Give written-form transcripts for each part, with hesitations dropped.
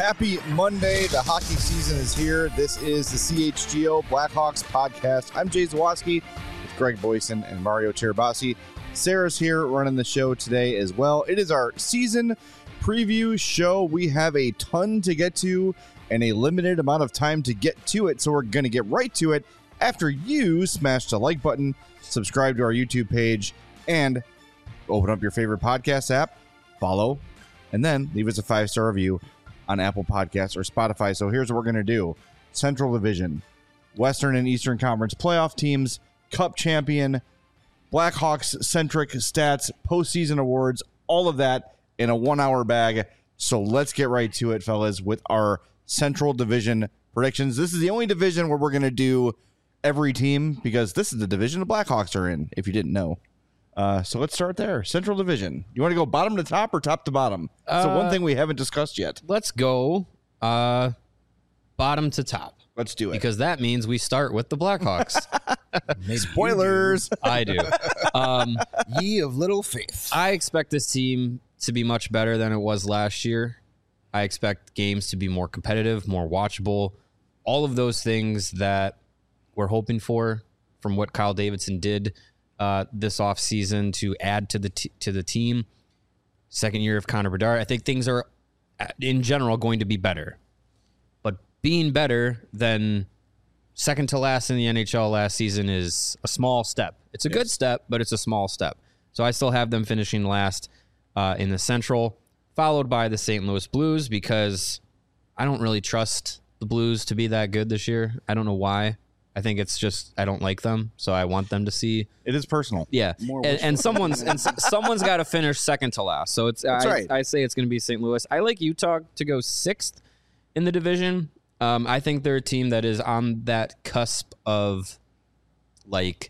Happy Monday. The hockey season is here. This is the CHGO Blackhawks podcast. I'm Jay Zawaski with Greg Boyson and Mario Cherabassi. Sarah's here running the show today as well. It is our season preview show. We have a ton to get to and a limited amount of time to get to it, so we're going to get right to it after you smash the like button, subscribe to our YouTube page, and open up your favorite podcast app, follow, and then leave us a 5-star review on Apple Podcasts or Spotify. So here's what we're going to do. Central Division, Western and Eastern Conference playoff teams, Cup champion, Blackhawks-centric stats, postseason awards, all of that in a 1-hour bag. So let's get right to it, fellas, with our Central Division predictions. This is the only division where we're going to do every team because this is the division the Blackhawks are in, if you didn't know. So let's start there. Central Division. You want to go bottom to top or top to bottom? So one thing we haven't discussed yet. Let's go bottom to top. Let's do it. Because that means we start with the Blackhawks. Spoilers. I do. Ye of little faith. I expect this team to be much better than it was last year. I expect games to be more competitive, more watchable. All of those things that we're hoping for from what Kyle Davidson did this offseason to add to the team. Second year of Connor Bedard. I think things are, in general, going to be better. But being better than second to last in the NHL last season is a small step. It's a good step, but it's a small step. So I still have them finishing last in the Central, followed by the St. Louis Blues, because I don't really trust the Blues to be that good this year. I don't know why. I think it's just I don't like them, so I want them to see. It is personal. Yeah, and someone's got to finish second to last. So it's right. I say it's going to be St. Louis. I like Utah to go 6th in the division. I think they're a team that is on that cusp of, like,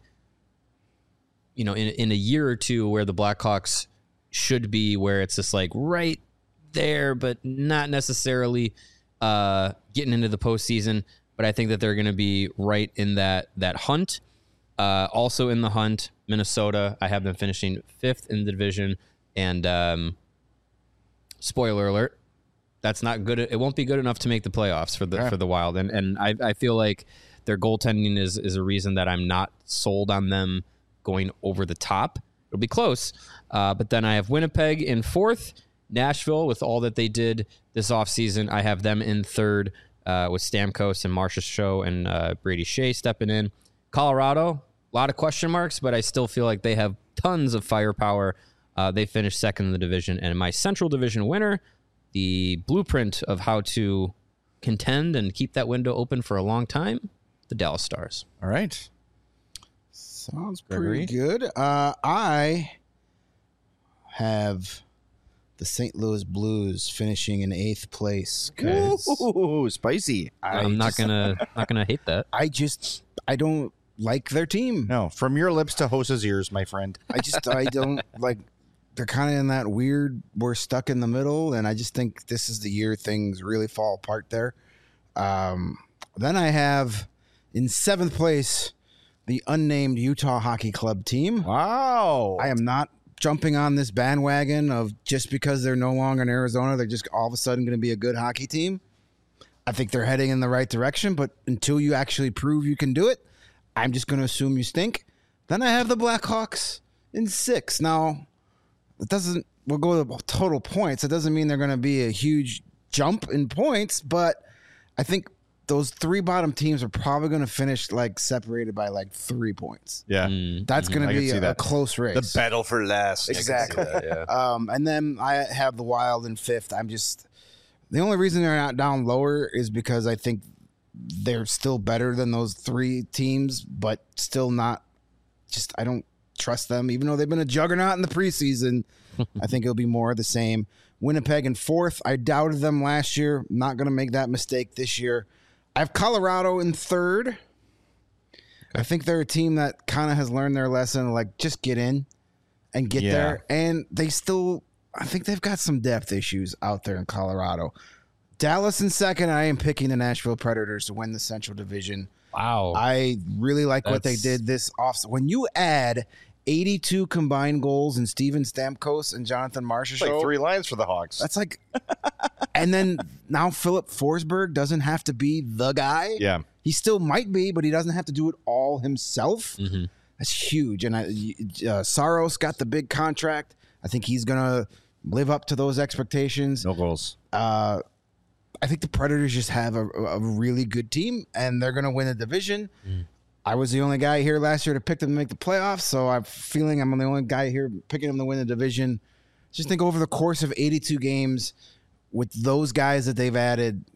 you know, in a year or two where the Blackhawks should be, where it's just like right there, but not necessarily getting into the postseason. But I think that they're going to be right in that hunt. Also in the hunt, Minnesota. I have them finishing 5th in the division. And spoiler alert, that's not good. It won't be good enough to make the playoffs for the Wild. And I feel like their goaltending is a reason that I'm not sold on them going over the top. It'll be close. But then I have Winnipeg in 4th. Nashville, with all that they did this offseason, I have them in 3rd. With Stamkos and Marcia Show and Brady Shea stepping in. Colorado, a lot of question marks, but I still feel like they have tons of firepower. They finished 2nd in the division. And my Central Division winner, the blueprint of how to contend and keep that window open for a long time, the Dallas Stars. All right. Sounds pretty good. I have the St. Louis Blues finishing in 8th place. Ooh, spicy. I'm not gonna hate that. I don't like their team. No, from your lips to Hosa's ears, my friend. I don't like. They're kind of in that weird. We're stuck in the middle, and I just think this is the year things really fall apart there. Then I have in 7th place the unnamed Utah Hockey Club team. Wow. I am not jumping on this bandwagon of just because they're no longer in Arizona, they're just all of a sudden going to be a good hockey team. I think they're heading in the right direction, but until you actually prove you can do it, I'm just going to assume you stink. Then I have the Blackhawks in 6th. Now, we'll go to total points. It doesn't mean they're going to be a huge jump in points, but I think those 3 bottom teams are probably going to finish like separated by like 3 points. Yeah. That's going to be a close race. The battle for last. Exactly. That, yeah. And then I have the Wild in 5th. The only reason they're not down lower is because I think they're still better than those 3 teams, but still not I don't trust them, even though they've been a juggernaut in the preseason. I think it'll be more of the same. Winnipeg in 4th. I doubted them last year. Not going to make that mistake this year. I have Colorado in 3rd. Okay. I think they're a team that kind of has learned their lesson, like just get in and get there. And I think they've got some depth issues out there in Colorado. Dallas in 2nd. I am picking the Nashville Predators to win the Central Division. Wow. I really like what they did this offseason. When you add 82 combined goals in Steven Stamkos and Jonathan Marchessault. Like 3 lines for the Hawks. That's like, and then now Philip Forsberg doesn't have to be the guy. Yeah. He still might be, but he doesn't have to do it all himself. Mm-hmm. That's huge. And Saros got the big contract. I think he's going to live up to those expectations. No goals. I think the Predators just have a really good team, and they're going to win the division. I was the only guy here last year to pick them to make the playoffs, so I'm feeling I'm the only guy here picking them to win the division. Just think over the course of 82 games, with those guys that they've added,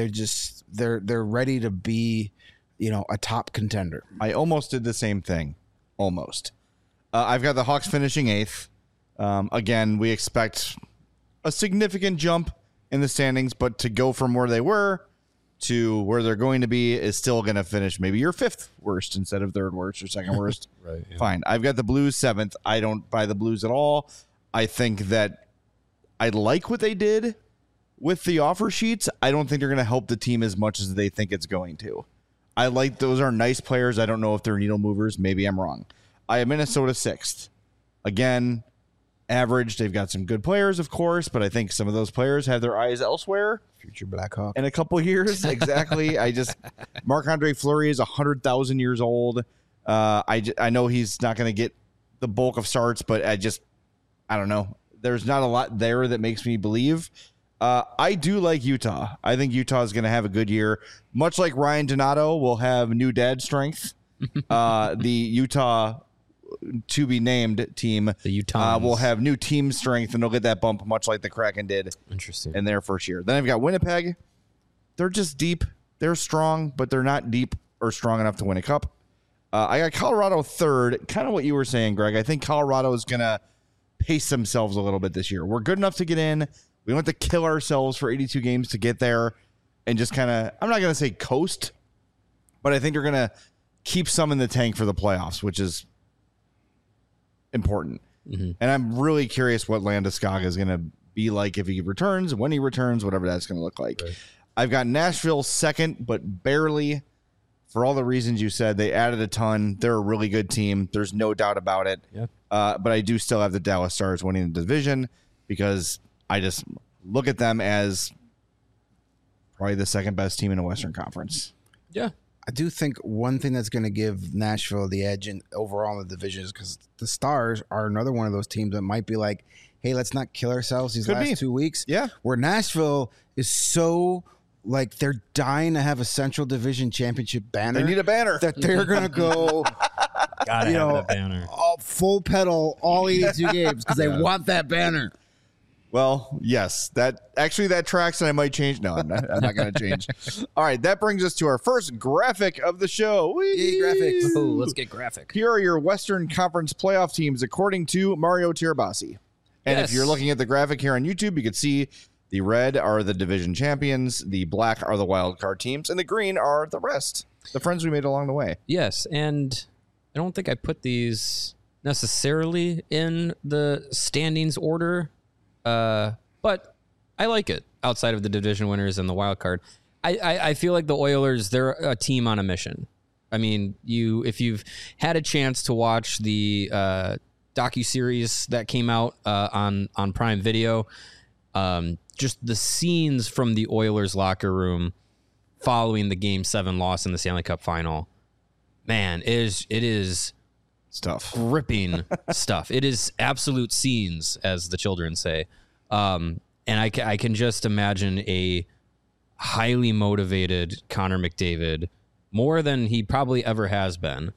they're ready to be, a top contender. I almost did the same thing. Almost. I've got the Hawks finishing 8th. Again, we expect a significant jump in the standings, but to go from where they were to where they're going to be is still going to finish maybe your 5th worst instead of 3rd worst or 2nd worst. Right. Yeah. Fine. I've got the Blues 7th. I don't buy the Blues at all. I think that I like what they did with the offer sheets. I don't think they're going to help the team as much as they think it's going to. I like those are nice players. I don't know if they're needle movers. Maybe I'm wrong. I have Minnesota 6th. Again, average. They've got some good players, of course, but I think some of those players have their eyes elsewhere. Future Blackhawk. In a couple of years, exactly. Marc-Andre Fleury is 100,000 years old. I know he's not going to get the bulk of starts, but I don't know. There's not a lot there that makes me believe. I do like Utah. I think Utah is going to have a good year. Much like Ryan Donato will have new dad strength. The Utah to be named team will have new team strength, and they'll get that bump much like the Kraken did in their first year. Then I've got Winnipeg. They're just deep. They're strong, but they're not deep or strong enough to win a cup. I got Colorado 3rd. Kind of what you were saying, Greg. I think Colorado is going to pace themselves a little bit this year. We're good enough to get in. We don't have to kill ourselves for 82 games to get there and just kind of, I'm not going to say coast, but I think they're going to keep some in the tank for the playoffs, which is important. Mm-hmm. And I'm really curious what Landeskog is going to be like if he returns, when he returns, whatever that's going to look like. Right. I've got Nashville 2nd, but barely, for all the reasons you said. They added a ton. They're a really good team. There's no doubt about it. Yeah. But I do still have the Dallas Stars winning the division because I just look at them as probably the 2nd best team in the Western Conference. Yeah. I do think one thing that's going to give Nashville the edge overall in the division is because the Stars are another one of those teams that might be like, hey, let's not kill ourselves these last 2 weeks. Yeah. Where Nashville is so, like, they're dying to have a Central Division Championship banner. They need a banner. That they're going to go, Gotta have that banner. Full pedal all 82 games because they want that banner. Well, yes, that tracks, and I might change. No, I'm not going to change. All right, that brings us to our first graphic of the show. Yay, graphics. Ooh, let's get graphic. Here are your Western Conference playoff teams according to Mario Tirabassi. And Yes. if you're looking at the graphic here on YouTube, you can see the red are the division champions, the black are the wild card teams, and the green are the rest, the friends we made along the way. Yes, and I don't think I put these necessarily in the standings order. But I like it outside of the division winners and the wild card. I feel like the Oilers, they're a team on a mission. I mean, if you've had a chance to watch the docuseries that came out on Prime Video, just the scenes from the Oilers locker room following the Game 7 loss in the Stanley Cup Final, man, it is Stuff. gripping stuff. It is absolute scenes, as the children say. And I can just imagine a highly motivated Connor McDavid, more than he probably ever has been,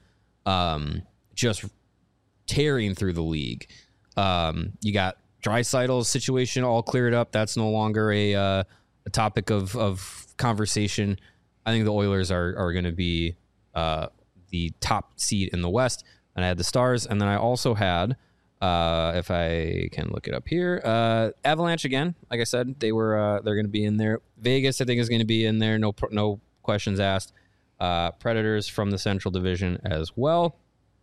just tearing through the league. You got Draisaitl's situation all cleared up. That's no longer a topic of conversation. I think the Oilers are going to be the top seed in the West. And I had the Stars, and then I also had, if I can look it up here, Avalanche again. Like I said, they're going to be in there. Vegas, I think, is going to be in there. No questions asked. Predators from the Central Division as well.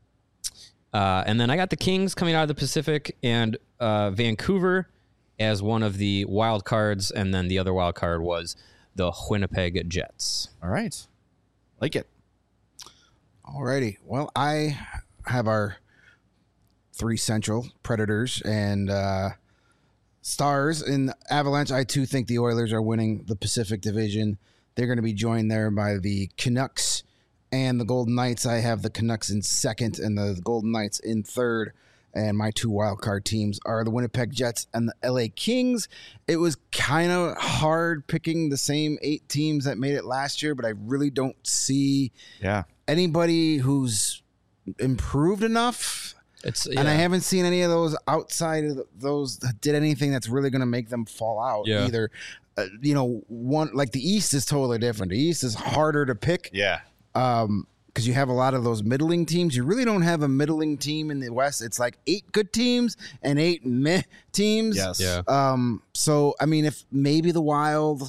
And then I got the Kings coming out of the Pacific, and Vancouver as one of the wild cards, and then the other wild card was the Winnipeg Jets. All right. Like it. Alrighty. Well, I have our 3 Central, Predators and Stars. In Avalanche, I too think the Oilers are winning the Pacific Division. They're going to be joined there by the Canucks and the Golden Knights. I have the Canucks in second and the Golden Knights in third. And my 2 wildcard teams are the Winnipeg Jets and the LA Kings. It was kind of hard picking the same 8 teams that made it last year, but I really don't see anybody who's improved enough. And I haven't seen any of those outside of those that did anything that's really going to make them fall out either. One like the East is totally different. The East is harder to pick. Yeah. Because you have a lot of those middling teams. You really don't have a middling team in the West. It's like 8 good teams and 8 meh teams. Yes. Yeah. So, I mean, if maybe the Wild,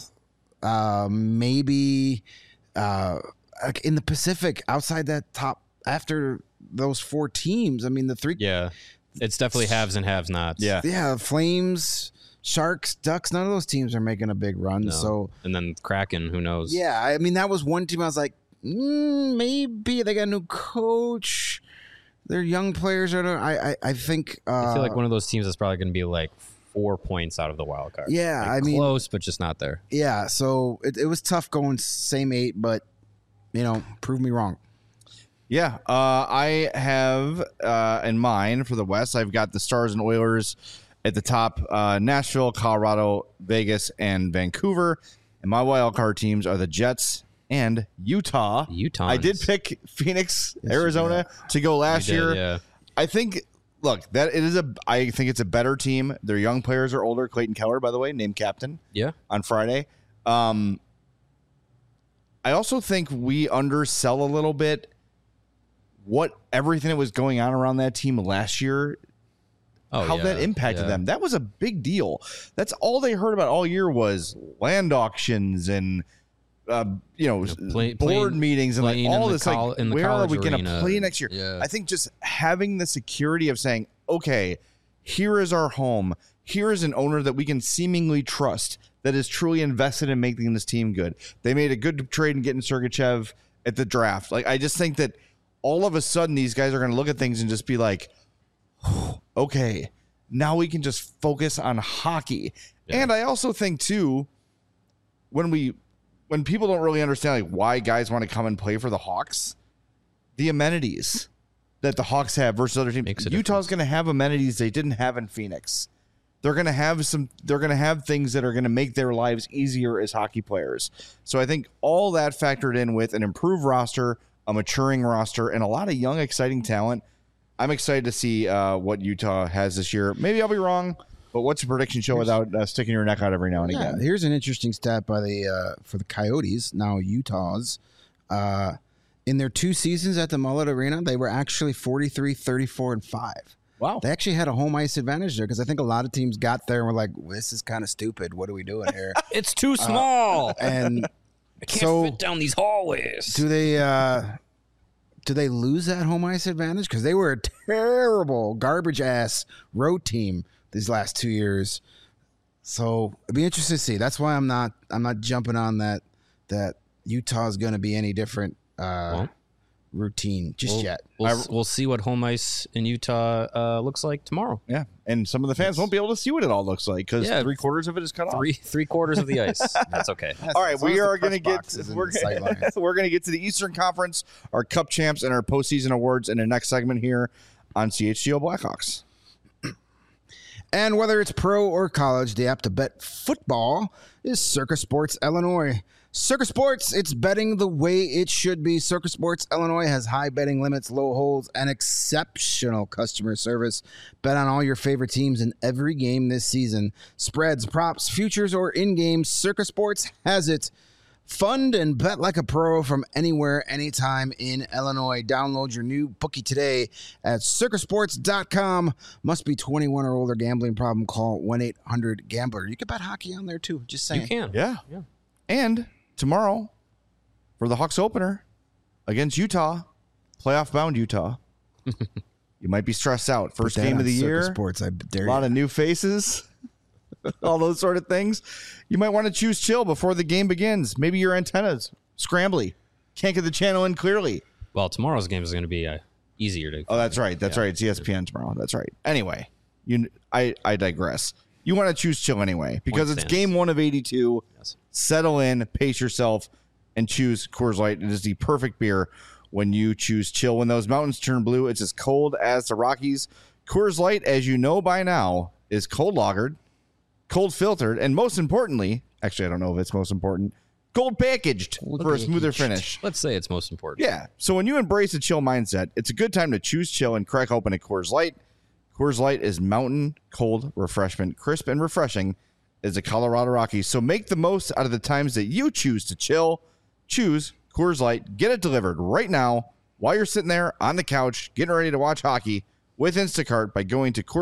maybe in the Pacific, outside that top, after those 4 teams, I mean, the 3. Yeah. It's definitely haves and have nots. Yeah. Yeah. Flames, Sharks, Ducks, none of those teams are making a big run. No. So, and then Kraken, who knows? Yeah. I mean, that was one team I was like, maybe they got a new coach. Their young players are. I think. I feel like one of those teams is probably going to be like 4 points out of the wild card. Yeah, like I mean, close, but just not there. Yeah, so it was tough going same 8, but prove me wrong. Yeah, I have in mind for the West, I've got the Stars and Oilers at the top. Nashville, Colorado, Vegas, and Vancouver. And my wild card teams are the Jets and Utah. I did pick Phoenix, Arizona to go last year. Yeah. I think. Look, I think it's a better team. Their young players are older. Clayton Keller, by the way, named captain. Yeah. On Friday. I also think we undersell a little bit what everything that was going on around that team last year. How that impacted them. That was a big deal. That's all they heard about all year was land auctions and board meetings and like all this. Where are we going to play next year? Yeah. I think just having the security of saying, okay, here is our home. Here is an owner that we can seemingly trust that is truly invested in making this team good. They made a good trade in getting Sergachev at the draft. Like, I just think that all of a sudden these guys are going to look at things and just be like, okay, now we can just focus on hockey. Yeah. And I also think too, when people don't really understand like why guys want to come and play for the Hawks, the amenities that the Hawks have versus other teams. Utah's going to have amenities they didn't have in Phoenix. They're going to have things that are going to make their lives easier as hockey players. So I think all that factored in with an improved roster, a maturing roster, and a lot of young, exciting talent. I'm excited to see what Utah has this year. Maybe I'll be wrong, but what's a prediction show without sticking your neck out every now and again? Here's an interesting stat by for the Coyotes, now Utah's. In their 2 seasons at the Mullet Arena, they were actually 43, 34, and 5. Wow. They actually had a home ice advantage there because I think a lot of teams got there and were like, this is kind of stupid. What are we doing here? It's too small. And I can't fit down these hallways. Do they lose that home ice advantage? Because they were a terrible, garbage-ass road team these last 2 years. So it'd be interesting to see. That's why I'm not jumping on that Utah is going to be any different routine just yet. We'll see what home ice in Utah looks like tomorrow. Yeah, and some of the fans won't be able to see what it all looks like because 3/4 of it is cut off. Three quarters of the ice. That's okay. All right, we are going to get we're going to get to the Eastern Conference, our Cup champs, and our postseason awards in the next segment here on CHGO Blackhawks. And whether it's pro or college, the app to bet football is Circa Sports Illinois. Circa Sports, it's betting the way it should be. Circa Sports Illinois has high betting limits, low holds, and exceptional customer service. Bet on all your favorite teams in every game this season. Spreads, props, futures, or in-game, Circa Sports has it. Fund and bet like a pro from anywhere, anytime in Illinois. Download your new bookie today at circasports.com. Must be 21 or older. Gambling problem, call 1-800-GAMBLER. You can bet hockey on there too, just saying. You can. Yeah. And tomorrow, for the Hawks opener against Utah, playoff-bound Utah, you might be stressed out. First game of the year, Sports, I dare a lot of new faces, all those sort of things. You might want to choose chill before the game begins. Maybe your antenna's scrambly. Can't get the channel in clearly. Well, tomorrow's game is going to be easier to. Oh, that's right. That's right. It's ESPN tomorrow. That's right. Anyway, I digress. You want to choose chill anyway because it's game 1 of 82. Yes. Settle in, pace yourself, and choose Coors Light. It is the perfect beer when you choose chill. When those mountains turn blue, it's as cold as the Rockies. Coors Light, as you know by now, is cold lagered, cold filtered, and most importantly, actually, I don't know if it's most important, cold packaged for a smoother finish. Let's say it's most important. Yeah. So when you embrace a chill mindset, it's a good time to choose chill and crack open a Coors Light. Coors Light is mountain cold refreshment, crisp and refreshing as the Colorado Rockies. So make the most out of the times that you choose to chill. Choose Coors Light. Get it delivered right now while you're sitting there on the couch getting ready to watch hockey with Instacart by going to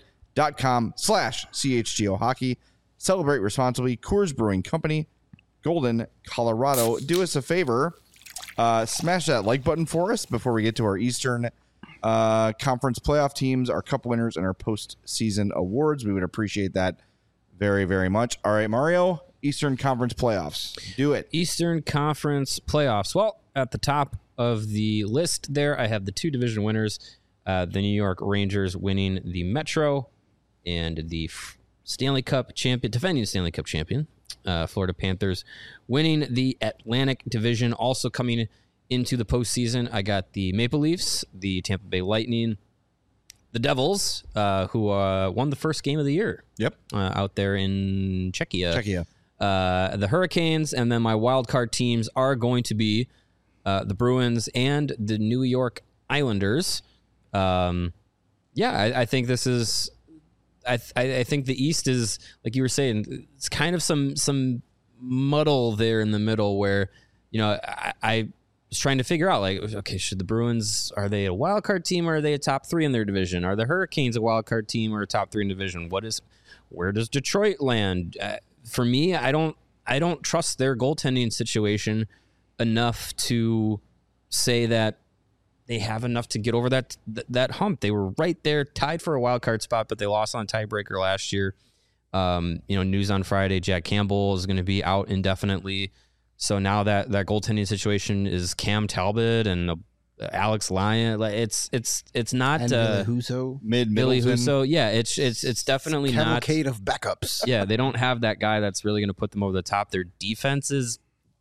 CoorsLight.com/CHGO Hockey. Celebrate responsibly. Coors Brewing Company, Golden, Colorado. Do us a favor. Smash that like button for us before we get to our Eastern Conference playoff teams, our cup winners, and our postseason awards. We would appreciate that very, very much. All right, Mario, Eastern Conference playoffs. Do it. Eastern Conference playoffs. Well, at the top of the list there, I have the 2 division winners, the New York Rangers winning the Metro and the Stanley Cup champion, defending Stanley Cup champion, Florida Panthers winning the Atlantic Division. Also coming into the postseason, I got the Maple Leafs, the Tampa Bay Lightning, the Devils, who won the first game of the year. Yep. Out there in Czechia. Czechia. The Hurricanes, and then my wild card teams are going to be the Bruins and the New York Islanders. I think this is. I think the East is, like you were saying, it's kind of some muddle there in the middle where, I was trying to figure out, like, okay, should the Bruins, are they a wild card team or are they a top 3 in their division? Are the Hurricanes a wild card team or a top 3 in division? Where does Detroit land? For me, I don't trust their goaltending situation enough to say that they have enough to get over that hump. They were right there, tied for a wild card spot, but they lost on tiebreaker last year. News on Friday, Jack Campbell is going to be out indefinitely. So now that goaltending situation is Cam Talbot and Alex Lyon. Like it's not and Billy Husso. Billy Husso. Yeah, it's definitely not cavalcade of backups. Yeah, they don't have that guy that's really going to put them over the top. Their defense is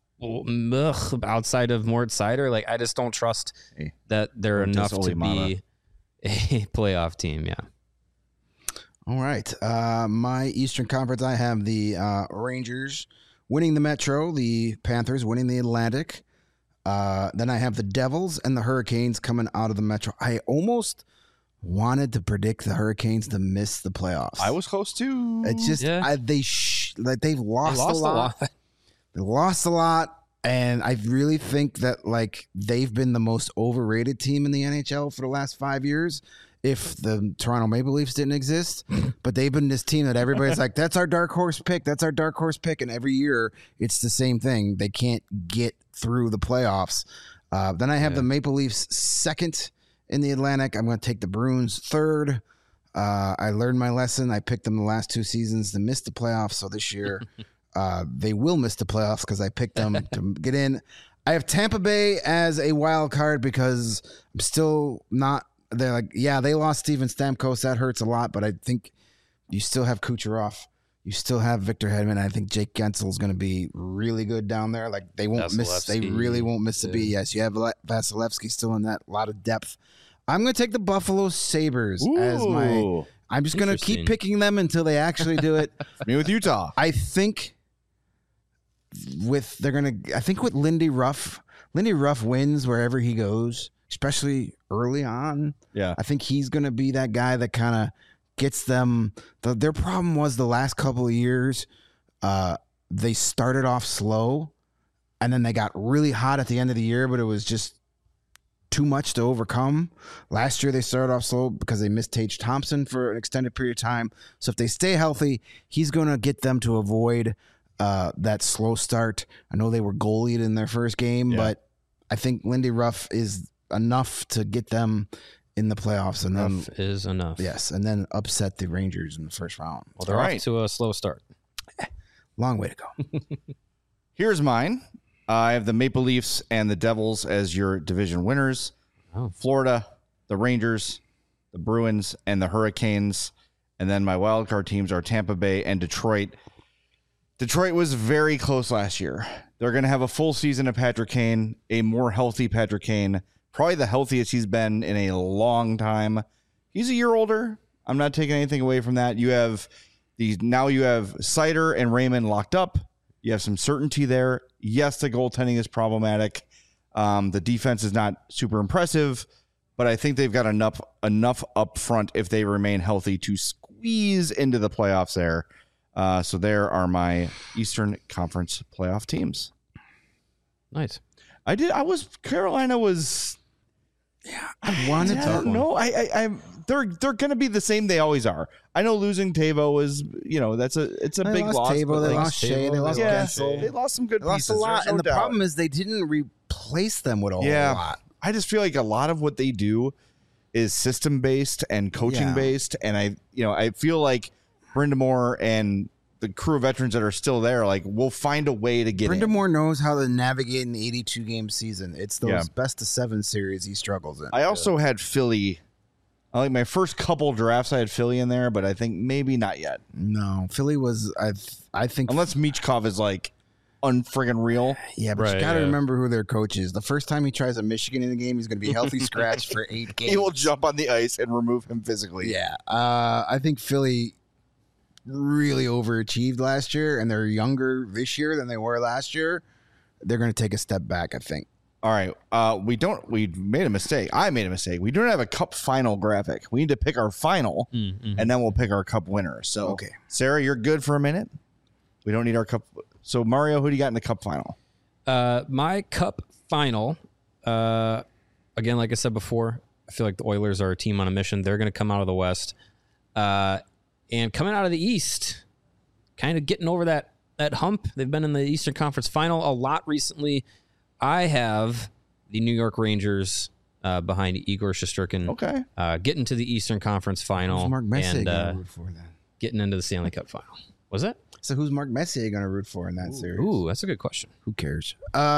outside of Mort Seider. Like I just don't trust that they're enough to be a playoff team. Yeah. All right. My Eastern Conference, I have the Rangers winning the Metro, the Panthers winning the Atlantic. Then I have the Devils and the Hurricanes coming out of the Metro. I almost wanted to predict the Hurricanes to miss the playoffs. I was close to. It's just they've lost a lot. They lost a lot, and I really think that they've been the most overrated team in the NHL for the last 5 years. If the Toronto Maple Leafs didn't exist, but they've been this team that everybody's like, that's our dark horse pick. That's our dark horse pick. And every year it's the same thing. They can't get through the playoffs. Then I have the Maple Leafs second in the Atlantic. I'm going to take the Bruins third. I learned my lesson. I picked them the last 2 seasons to miss the playoffs. So this year they will miss the playoffs because I picked them to get in. I have Tampa Bay as a wild card because I'm still not. They're like, yeah, they lost Steven Stamkos. That hurts a lot, but I think you still have Kucherov. You still have Victor Hedman. I think Jake Gensel is going to be really good down there. Like they won't miss. They really won't miss a beat. Yes, you have Vasilevsky still in that. A lot of depth. I'm going to take the Buffalo Sabres as my. I'm just going to keep picking them until they actually do it. Me with Utah. I think with Lindy Ruff. Lindy Ruff wins wherever he goes, especially early on. Yeah. I think he's going to be that guy that kind of gets them. Their problem was the last couple of years, they started off slow, and then they got really hot at the end of the year, but it was just too much to overcome. Last year, they started off slow because they missed Tage Thompson for an extended period of time. So if they stay healthy, he's going to get them to avoid that slow start. I know they were goalied in their first game, but I think Lindy Ruff is enough to get them in the playoffs. And Ruff is enough. Yes, and then upset the Rangers in the first round. Well, they're off to a slow start. Long way to go. Here's mine. I have the Maple Leafs and the Devils as your division winners. Oh. Florida, the Rangers, the Bruins, and the Hurricanes. And then my wildcard teams are Tampa Bay and Detroit. Detroit was very close last year. They're going to have a full season of Patrick Kane, a more healthy Patrick Kane, probably the healthiest he's been in a long time. He's a year older. I'm not taking anything away from that. You have Seider and Raymond locked up. You have some certainty there. Yes, the goaltending is problematic. The defense is not super impressive, but I think they've got enough up front if they remain healthy to squeeze into the playoffs there. So there are my Eastern Conference playoff teams. Nice. Carolina was. Yeah, I wanted to. I don't know. They're going to be the same they always are. I know losing Tavo is, it's a big loss. Tavo, they lost Shea, they lost Gensel. They lost some good pieces. They lost a lot, and the doubt. problem is they didn't replace them with a whole lot. I just feel like a lot of what they do is system based and coaching based, and I feel like Brind'Amour and the crew of veterans that are still there, like, we'll find a way to get in. Brind'Amour knows how to navigate an 82-game season. It's those best-of-7 series he struggles in. I also had Philly. Like my first couple drafts, I had Philly in there, but I think maybe not yet. No, Philly was, I think... Unless Michkov is, like, unfriggin' real. Yeah, but you got to remember who their coach is. The first time he tries a Michigan in the game, he's going to be healthy scratched for 8 games. He will jump on the ice and remove him physically. Yeah. I think Philly really overachieved last year, and they're younger this year than they were last year. They're going to take a step back, I think. All right. We made a mistake. I made a mistake. We don't have a cup final graphic. We need to pick our final, and then we'll pick our cup winner. So, okay. Sarah, you're good for a minute. We don't need our cup. So, Mario, who do you got in the cup final? My cup final, again, like I said before, I feel like the Oilers are a team on a mission. They're going to come out of the West. And coming out of the East, kind of getting over that hump. They've been in the Eastern Conference final a lot recently. I have the New York Rangers behind Igor Shesterkin. Okay. Getting to the Eastern Conference final. Who's Mark Messier going to root for then? Getting into the Stanley Cup final. Was it? So who's Mark Messier going to root for in that series? Ooh, that's a good question. Who cares?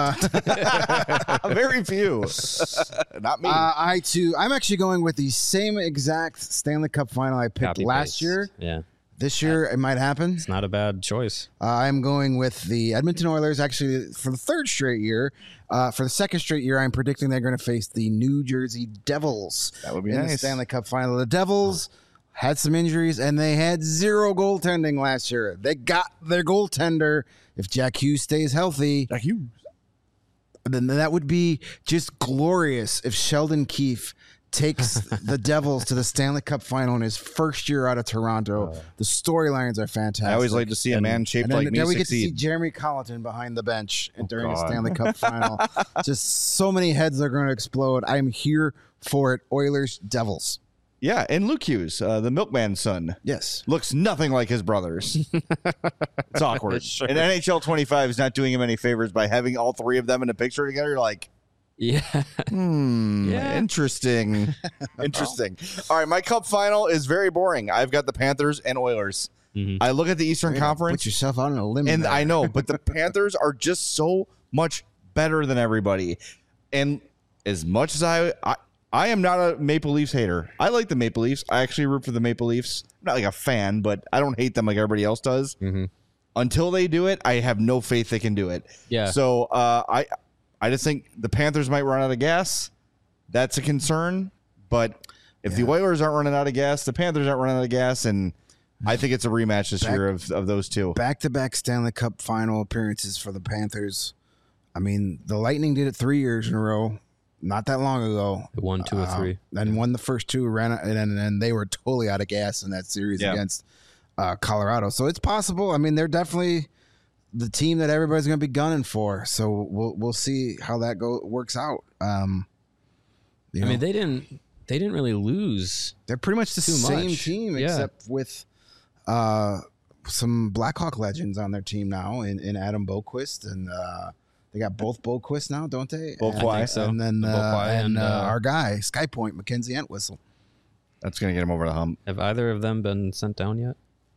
Very few. Not me. I'm actually going with the same exact Stanley Cup final I picked last year. Yeah. This year, it might happen. It's not a bad choice. I'm going with the Edmonton Oilers, actually, for the third straight year. For the second straight year, I'm predicting they're going to face the New Jersey Devils. That would be in nice. The Stanley Cup final. The Devils had some injuries, and they had 0 goaltending last year. They got their goaltender. If Jack Hughes stays healthy, then that would be just glorious if Sheldon Keefe takes the Devils to the Stanley Cup final in his first year out of Toronto. The storylines are fantastic. I always like to see a man shaped like me then we succeed. get to see Jeremy Colleton behind the bench during the Stanley Cup final. Just so many heads are going to explode. I'm here for it. Oilers, Devils. Yeah, and Luke Hughes, the milkman's son. Yes. Looks nothing like his brothers. It's awkward. Sure. And NHL 25 is not doing him any favors by having all 3 of them in a picture together. You're like, Yeah. Interesting. Interesting. All right, my cup final is very boring. I've got the Panthers and Oilers. I look at the Eastern Conference. Put yourself out on a limb. And I know, but the Panthers are just so much better than everybody. And as much as I am not a Maple Leafs hater. I like the Maple Leafs. I actually root for the Maple Leafs. I'm not like a fan, but I don't hate them like everybody else does. Until they do it, I have no faith they can do it. Yeah. So I just think the Panthers might run out of gas. That's a concern. But if the Oilers aren't running out of gas, the Panthers aren't running out of gas, and I think it's a rematch this year of those two. Back-to-back Stanley Cup final appearances for the Panthers. I mean, the Lightning did it 3 years in a row. Not that long ago. They won 2 or 3. And won the first 2, and they were totally out of gas in that series against Colorado. So it's possible. I mean, they're definitely the team that everybody's going to be gunning for. So we'll see how that works out. I mean, they didn't really lose. They're pretty much the same team, except with some Blackhawk legends on their team now, in Adam Boqvist and. They got both Boqvist now, don't they? So. And then our guy, Skypoint, Mackenzie Entwistle. That's going to get him over the hump. Have either of them been sent down yet?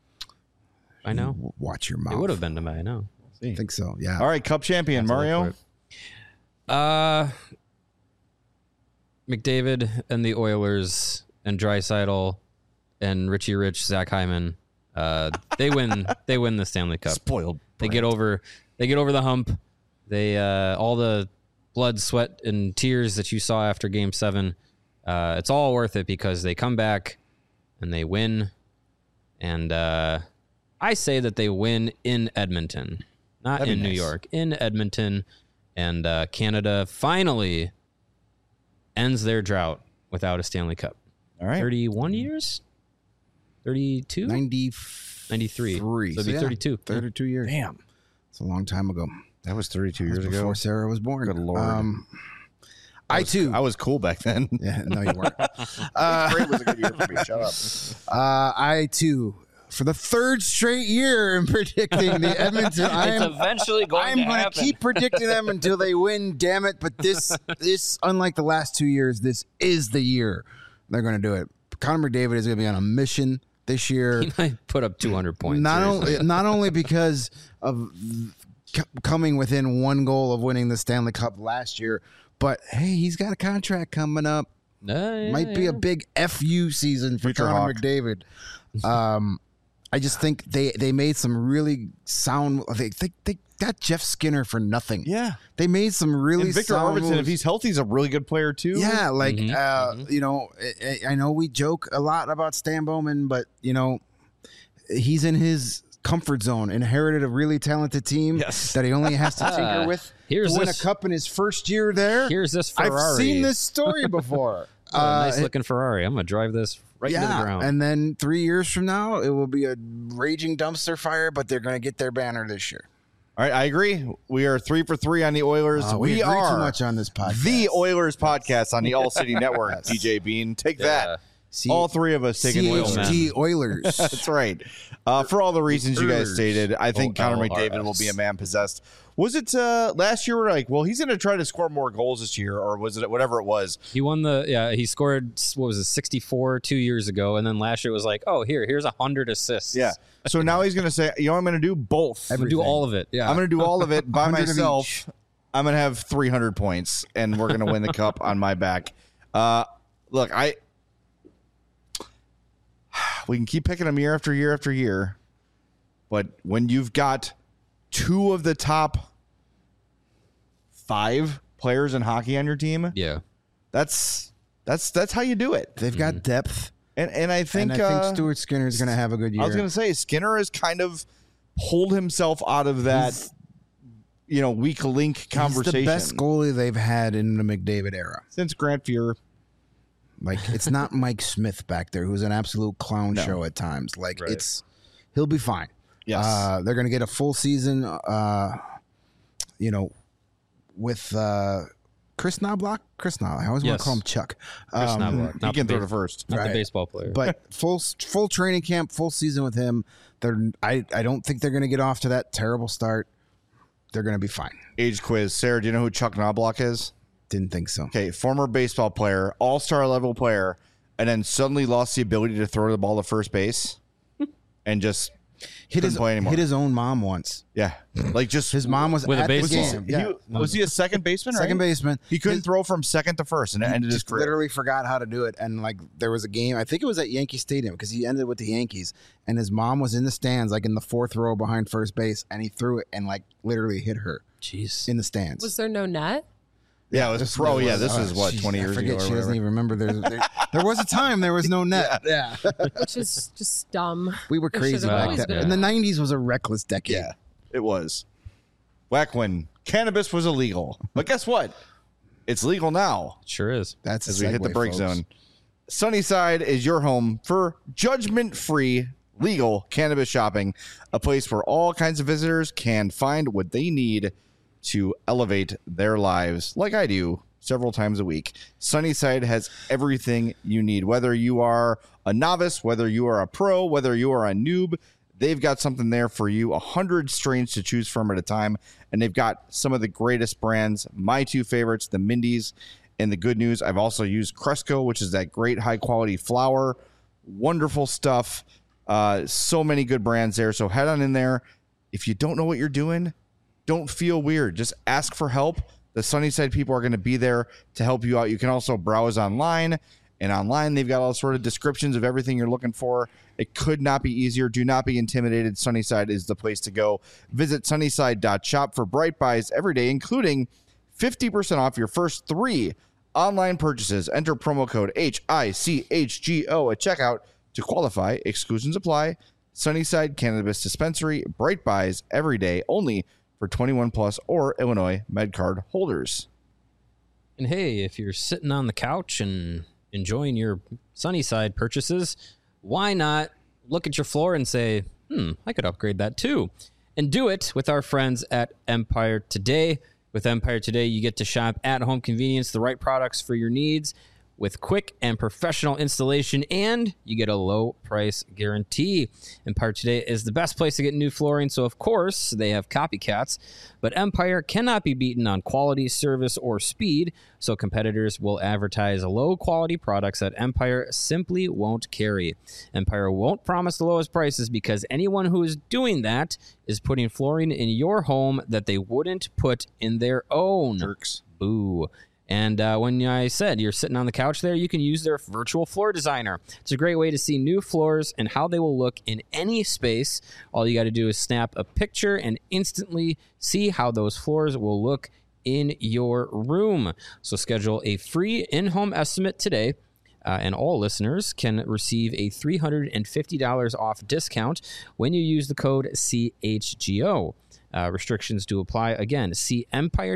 I know. Watch your mouth. It would have been to me, I know. I think so, yeah. All right, Cup champion, Mario. McDavid and the Oilers and Draisaitl and Richie Rich, Zach Hyman, they win the Stanley Cup. Spoiled. They get over the hump. They all the blood, sweat, and tears that you saw after Game 7, it's all worth it because they come back and they win. And I say that they win in Edmonton, not in New York, in Edmonton. And Canada finally ends their drought without a Stanley Cup. All right. 31 years? 32? 93. So it'd be 32. 32 years. Damn. It's a long time ago. That was 32 years ago. Before Sarah was born. Good Lord. I was cool back then. Yeah, no, you weren't. Great was a good year for me. Shut up. I too, for the third straight year, am predicting the Edmonton. eventually I'm going to keep predicting them until they win. Damn it! But this, unlike the last 2 years, this is the year they're going to do it. Connor McDavid is going to be on a mission this year. He might put up 200 points. Not only because of coming within one goal of winning the Stanley Cup last year, but hey, he's got a contract coming up. Might be a big FU season for Future Connor Hawk. McDavid. I just think they made some really sound. They got Jeff Skinner for nothing. Yeah. They made some really And Victor sound Arvidsson, moves. if he's healthy, he's a really good player too. Yeah, like you know, I know we joke a lot about Stan Bowman, but you know, he's in his comfort zone. Inherited a really talented team that he only has to tinker with to win a cup in his first year there. Here's this Ferrari. I've seen this story before. Nice looking Ferrari. I'm gonna drive this right into the ground. And then 3 years from now, it will be a raging dumpster fire, but they're going to get their banner this year. All right, I agree. We are 3 for 3 on the Oilers. We agree are too much on this podcast. the Oilers podcast on the All City Network. DJ Bean, take that. All three of us taking CHG Oilers. That's right. For all the reasons you guys stated, I think Connor McDavid will be a man possessed. Was it last year? We're like, well, he's going to try to score more goals this year, or was it whatever it was? He won he scored, 64 2 years ago, and then last year was like, oh, here's 100 assists. Yeah. So now he's going to say, you know what I'm going to do? Both. I'm going to do all of it. Yeah. I'm going to do all of it by 100 of myself. each. I'm going to have 300 points, and we're going to win the cup on my back. Look, we can keep picking them year after year after year, but when you've got two of the top 5 players in hockey on your team, Yeah. that's how you do it. They've got depth. And I think Stuart Skinner is going to have a good year. I was going to say Skinner has kind of pulled himself out of that, weak link conversation. He's the best goalie they've had in the McDavid era. Since Grant Fuhr. Like, it's not Mike Smith back there, who's an absolute clown show at times. Like, he'll be fine. Yes. They're going to get a full season, with Chris Knobloch. I always want to call him Chuck. Chris Knobloch. He can throw to first. Not the baseball player. But full training camp, full season with him. I don't think they're going to get off to that terrible start. They're going to be fine. Age quiz. Sarah, do you know who Chuck Knobloch is? Didn't think so. Okay, former baseball player, all-star level player, and then suddenly lost the ability to throw the ball to first base and just couldn't play anymore. Hit his own mom once. Yeah. Like just His mom was With a at the baseball. game. was he a second baseman? Second right? baseman. He couldn't throw from second to first, and it ended his Just career. literally forgot how to do it. And like there was a game, I think it was at Yankee Stadium because he ended with the Yankees, and his mom was in the stands, like in the 4th row behind first base, and he threw it and like literally hit her Jeez. in the stands. Was there no net? Yeah, it was pro. Yeah, this is what, Jeez, 20 years I forget, ago. Or she doesn't whatever. even remember. There was a time there was no net. Yeah. Which is just dumb. We were There crazy should've back always then. been And the a net. 90s was a reckless decade. Yeah, it was. Back when cannabis was illegal. But guess what? It's legal now. Sure is. That's a As we hit the segue, break folks. zone. Sunnyside is your home for judgment-free legal cannabis shopping, a place where all kinds of visitors can find what they need to elevate their lives, like I do several times a week. Sunnyside has everything you need. Whether you are a novice, whether you are a pro, whether you are a noob, they've got something there for you. 100 strains to choose from at a time, and they've got some of the greatest brands. My 2 favorites, the Mindy's and the Good News. I've also used Cresco, which is that great high-quality flour. Wonderful stuff. So many good brands there. So head on in there. If you don't know what you're doing, don't feel weird. Just ask for help. The Sunnyside people are going to be there to help you out. You can also browse online, and online they've got all sort of descriptions of everything you're looking for. It could not be easier. Do not be intimidated. Sunnyside is the place to go. Visit sunnyside.shop for Bright Buys every day, including 50% off your first 3 online purchases. Enter promo code HICHGO at checkout to qualify. Exclusions apply. Sunnyside Cannabis Dispensary. Bright Buys every day, only for 21 plus or Illinois MedCard holders. And hey, if you're sitting on the couch and enjoying your Sunnyside purchases, why not look at your floor and say, I could upgrade that too. And do it with our friends at Empire Today. With Empire Today, you get to shop at home convenience, the right products for your needs with quick and professional installation, and you get a low price guarantee. Empire Today is the best place to get new flooring, so of course they have copycats, but Empire cannot be beaten on quality, service, or speed, so competitors will advertise low quality products that Empire simply won't carry. Empire won't promise the lowest prices because anyone who is doing that is putting flooring in your home that they wouldn't put in their own. Jerks. Boo. And when I said you're sitting on the couch there, you can use their virtual floor designer. It's a great way to see new floors and how they will look in any space. All you got to do is snap a picture and instantly see how those floors will look in your room. So schedule a free in-home estimate today. And all listeners can receive a $350 off discount when you use the code CHGO. Restrictions do apply. Again, see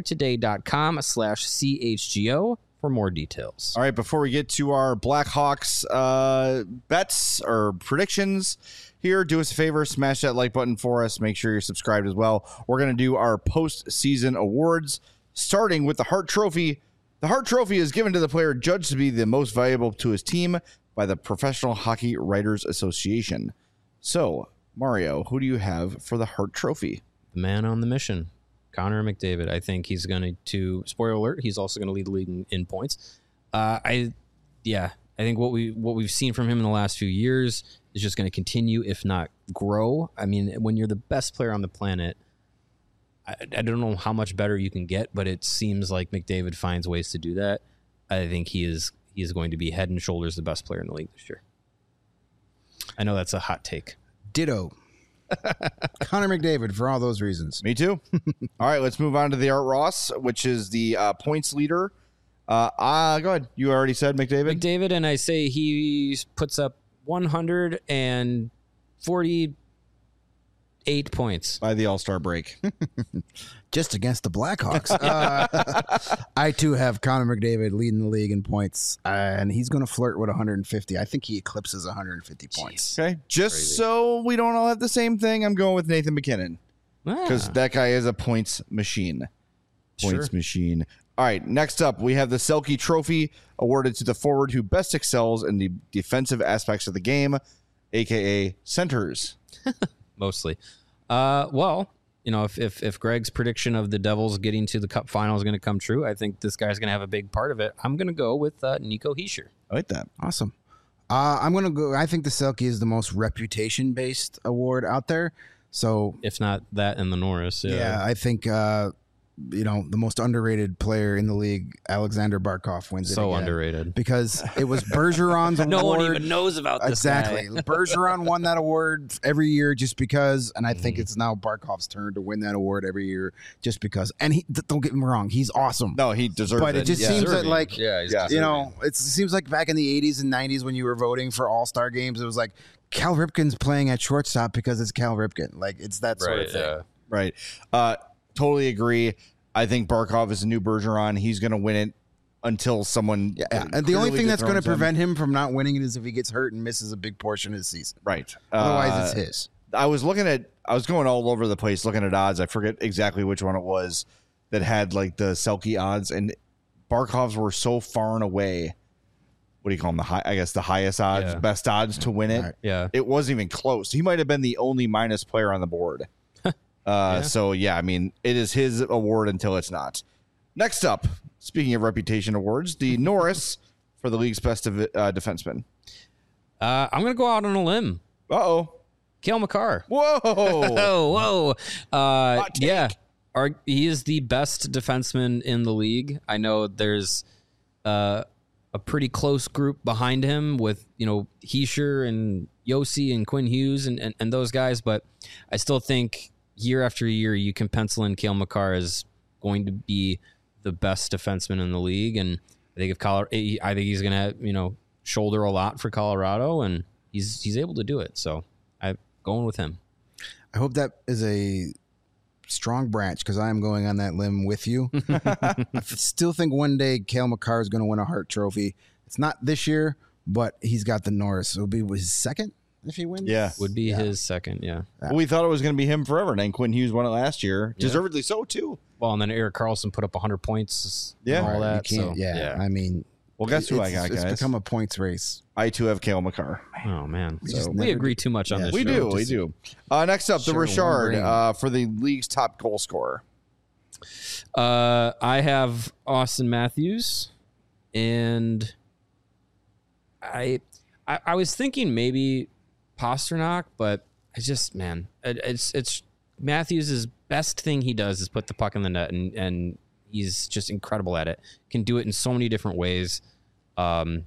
empiretoday.com/CHGO for more details. All right, before we get to our Blackhawks bets or predictions here, do us a favor, smash that like button for us. Make sure you're subscribed as well. We're going to do our postseason awards, starting with the Hart Trophy. The Hart Trophy is given to the player judged to be the most valuable to his team by the Professional Hockey Writers Association. So, Mario, who do you have for the Hart Trophy? The man on the mission, Connor McDavid. I think he's going to, spoiler alert, he's also going to lead the league in points. I think what we've seen from him in the last few years is just going to continue, if not grow. I mean, when you're the best player on the planet, I don't know how much better you can get, but it seems like McDavid finds ways to do that. I think he is going to be head and shoulders the best player in the league this year. I know that's a hot take. Ditto. Connor McDavid for all those reasons. Me too. All right, let's move on to the Art Ross, which is the points leader. Go ahead. You already said McDavid? McDavid, and I say he puts up 148 points. By the All-Star break. Just against the Blackhawks. I, too, have Connor McDavid leading the league in points, and he's going to flirt with 150. I think he eclipses 150 points. Okay, just so we don't all have the same thing, I'm going with Nathan McKinnon. Because that guy is a points machine. Points machine. All right, next up, we have the Selke Trophy awarded to the forward who best excels in the defensive aspects of the game, a.k.a. centers. Mostly. Well, you know, if Greg's prediction of the Devils getting to the Cup final is going to come true, I think this guy's going to have a big part of it. I'm going to go with Nico Hischier. I like that. Awesome. I'm going to go. I think the Selke is the most reputation-based award out there. So, if not that and the Norris. Yeah, I think the most underrated player in the league, Alexander Barkov, wins it. So again underrated because it was Bergeron's award. No one even knows about this exactly. guy. Bergeron won that award every year just because, and I think it's now Barkov's turn to win that award every year just because. And he, don't get me wrong, he's awesome. No, he deserves it. But it just seems that it seems like back in the 80s and 90s when you were voting for All-Star games, it was like Cal Ripken's playing at shortstop because it's Cal Ripken. Like it's that sort of thing. Yeah. Right. Totally agree. I think Barkov is a new Bergeron. He's going to win it until someone. Yeah. And the only thing that's going to prevent him from not winning it is if he gets hurt and misses a big portion of the season. Right. Otherwise, it's his. I was going all over the place looking at odds. I forget exactly which one it was that had like the Selke odds, and Barkov's were so far and away. What do you call them? The highest odds, best odds to win it. Right. Yeah. It wasn't even close. He might have been the only minus player on the board. So, I mean, it is his award until it's not. Next up, speaking of reputation awards, the Norris for the league's best defenseman. I'm going to go out on a limb. Uh-oh. Cale Makar. Whoa. Whoa. Hot take. Yeah. he is the best defenseman in the league. I know there's a pretty close group behind him with, Heischer and Yossi and Quinn Hughes and those guys, but I still think year after year you can pencil in Cale Makar as going to be the best defenseman in the league, and I think I think he's going to shoulder a lot for Colorado, and he's able to do it. So I'm going with him. I hope that is a strong branch because I am going on that limb with you. I still think one day Cale Makar is going to win a Hart Trophy. It's not this year, but he's got the Norris. It'll be his second if he wins. Yeah. Would be his second, yeah. Well, we thought it was going to be him forever, and then Quinn Hughes won it last year. Yeah. Deservedly so, too. Well, and then Erik Karlsson put up 100 points and all that. You can't, So, I mean, Well, guess who I got, guys? It's become a points race. I, too, have Cale Makar. Oh, man. just We never agree too much on this We show. do. Next up, the Sure, Richard one for the league's top goal scorer. I have Austin Matthews, and I was thinking maybe Pasternak, but I just, it's Matthews' best thing he does is put the puck in the net, and he's just incredible at it. Can do it in so many different ways. And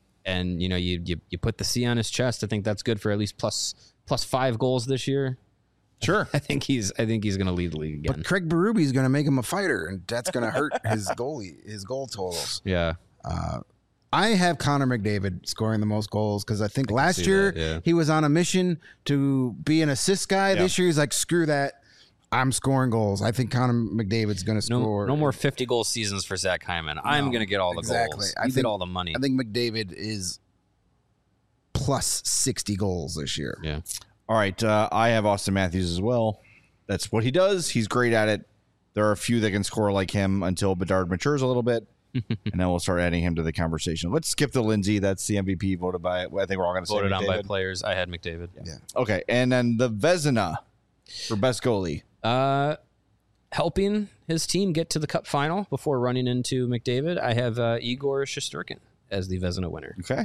you put the C on his chest. I think that's good for at least plus 5 goals this year. Sure. I think he's going to lead the league again. But Craig Berube is going to make him a fighter, and that's going to hurt his goal totals. Yeah. I have Connor McDavid scoring the most goals because I think last year he was on a mission to be an assist guy. Yeah. This year he's like, screw that. I'm scoring goals. I think Connor McDavid's going to score. No more 50-goal seasons for Zach Hyman. I'm going to get all the goals. You get all the money. I think McDavid is plus 60 goals this year. Yeah. All right. I have Austin Matthews as well. That's what he does. He's great at it. There are a few that can score like him until Bedard matures a little bit, and then we'll start adding him to the conversation. Let's skip to Lindsay. That's the MVP voted by, I think we're all going to say Voted on by McDavid. players. I had McDavid. Yeah. Okay. And then the Vezina for best goalie. Helping his team get to the Cup final before running into McDavid, I have Igor Shesterkin as the Vezina winner. Okay.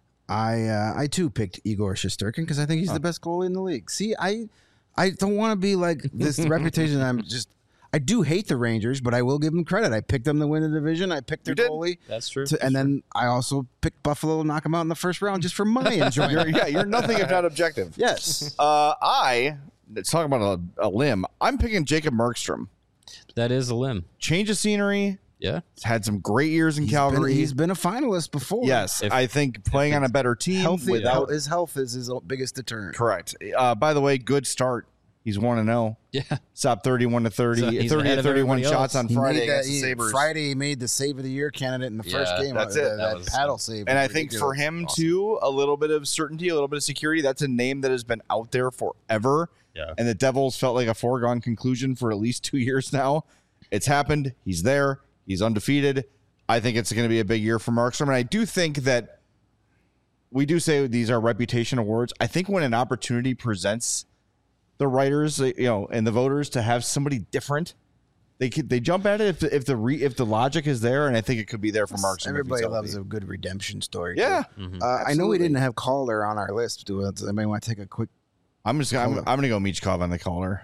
I too picked Igor Shesterkin because I think he's the best goalie in the league. See, I don't want to be like this reputation. I do hate the Rangers, but I will give them credit. I picked them to win the division. I picked their goalie. That's true. And then I also picked Buffalo to knock them out in the first round just for my enjoyment. You're nothing if not objective. Yes. Let's talk about a limb. I'm picking Jacob Markstrom. That is a limb. Change of scenery. Yeah. He's had some great years in Calgary. He's been a finalist before. Yes, I think playing on a better team without his health is his biggest deterrent. correct. By the way, good start. He's 1-0. Yeah. Stopped 31 to 30, So he's 30 ahead to of 31 everybody shots else. on Friday against the Sabres. Friday he made the save of the year candidate in the first game. that's it. That was paddle save. And was I think for ridiculous. him too, a little bit of certainty, a little bit of security. That's a name that has been out there forever. Yeah. And the Devils felt like a foregone conclusion for at least 2 years now. It's happened. He's there. He's undefeated. I think it's going to be a big year for Markstrom. And I do think that we do say these are reputation awards. I think when an opportunity presents the writers, and the voters to have somebody different, they jump at it if the logic is there, and I think it could be there for Markstrom. Everybody loves a good redemption story. Yeah. too. I know we didn't have Calder on our list. Do anybody want to take a quick? I'm going to go Michkov on the caller.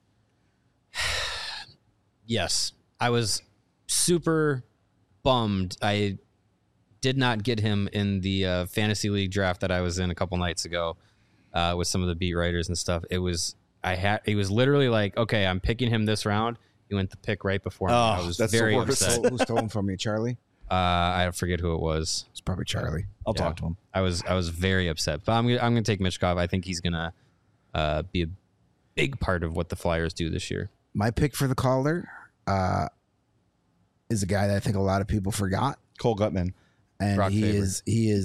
Yes. I was super bummed I did not get him in the fantasy league draft that I was in a couple nights ago with some of the beat writers and stuff. He was literally like, okay, I'm picking him this round. He went the pick right before me. I was that's the very worst. upset. Who stole him from you, Charlie? I forget who it was. It's probably Charlie. I'll talk to him. I was very upset, but I'm gonna take Michkov. I think he's gonna be a big part of what the Flyers do this year. My pick for the Calder is a guy that I think a lot of people forgot, Cole Gutman. and Brock he Faber. is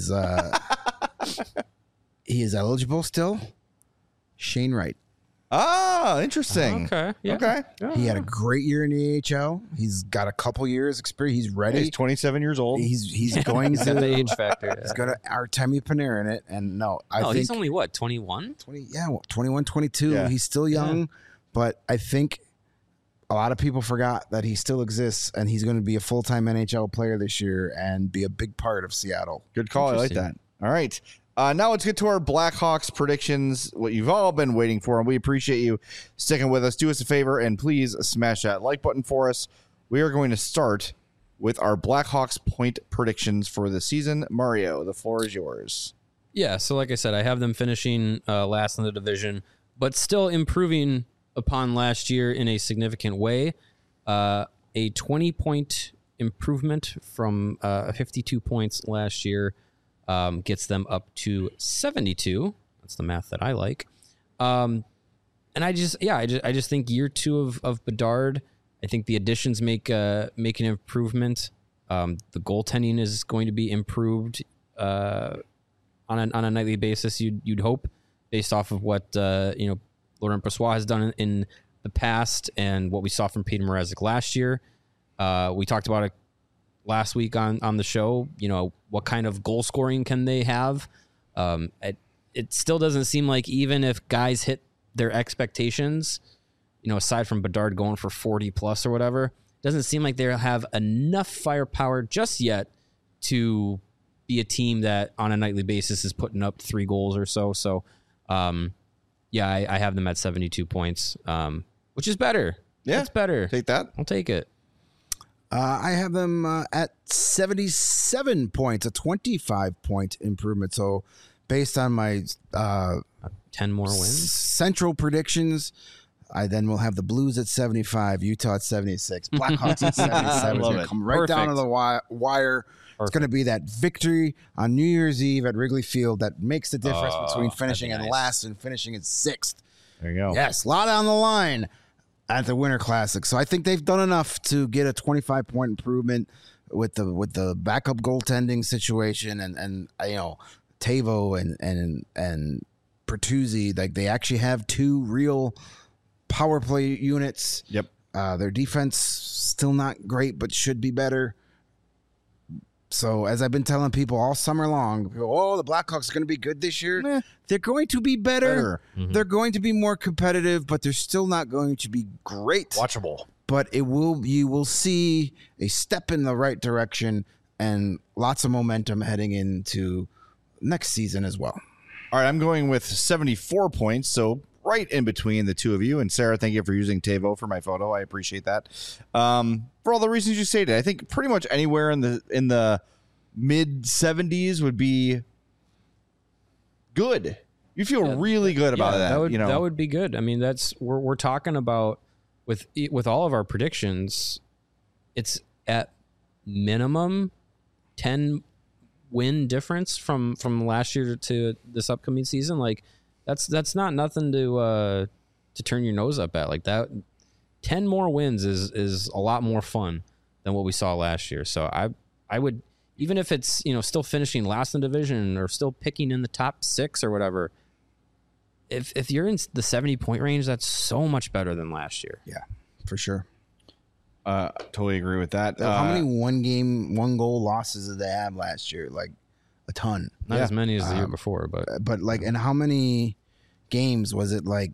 he is eligible still. Shane Wright. Ah, interesting. Okay. Yeah. Okay. He had a great year in the AHL. He's got a couple years experience. He's ready. He's 27 years old. He's going He's got the to. age factor. He's got Artemi Panarin in it, and I think he's only what, 21? 21, 22. Yeah. He's still young, but I think a lot of people forgot that he still exists, and he's going to be a full-time NHL player this year and be a big part of Seattle. Good call. I like that. Interesting. All right. Now let's get to our Blackhawks predictions, what you've all been waiting for, and we appreciate you sticking with us. Do us a favor and please smash that like button for us. We are going to start with our Blackhawks point predictions for the season. Mario, the floor is yours. Yeah, so like I said, I have them finishing last in the division, but still improving upon last year in a significant way. A 20-point improvement from 52 points last year. Gets them up to 72. That's the math that I like. And I just think year two of Bedard, I think the additions make an improvement. The goaltending is going to be improved on a nightly basis. You'd hope, based off of what Laurent Brossoit has done in the past and what we saw from Peter Mrazek last year. We talked about it last week on the show. What kind of goal scoring can they have? It still doesn't seem like, even if guys hit their expectations, aside from Bedard going for 40 plus or whatever, doesn't seem like they have enough firepower just yet to be a team that on a nightly basis is putting up 3 goals or so. So, I have them at 72 points, which is better. Yeah, it's better. Take that. I'll take it. I have them at 77 points, a 25-point improvement. So based on my 10 more wins, central predictions, I then will have the Blues at 75, Utah at 76, Blackhawks at 77. Love It's it. come right down to the wire. It's going to be that victory on New Year's Eve at Wrigley Field that makes the difference between finishing in last and finishing in 6th. There you go. Yes, a lot on the line at the Winter Classic. So I think they've done enough to get a 25-point improvement with the backup goaltending situation and Tavo and Bertuzzi. Like, they actually have 2 real power play units. Yep. Their defense still not great, but should be better. So as I've been telling people all summer long, the Blackhawks are going to be good this year. They're going to be better. Mm-hmm. They're going to be more competitive, but they're still not going to be great. Watchable. But you will see a step in the right direction and lots of momentum heading into next season as well. All right, I'm going with 74 points, so right in between the two of you. And Sarah, thank you for using Tavo for my photo. I appreciate that. For all the reasons you stated, I think pretty much anywhere in the mid 70s would be good. You feel really good about that. That would be good. I mean, that's we're talking about with all of our predictions. It's at minimum 10 win difference from last year to this upcoming season. Like, that's not nothing to turn your nose up at. Like, that 10 more wins is a lot more fun than what we saw last year. So I would, even if it's still finishing last in the division or still picking in the top 6 or whatever, if you're in the 70-point range, that's so much better than last year. Yeah, for sure. Totally agree with that. How many one goal losses did they have last year? Like, a ton. Not as many as the year before, but like, and how many games was it, like,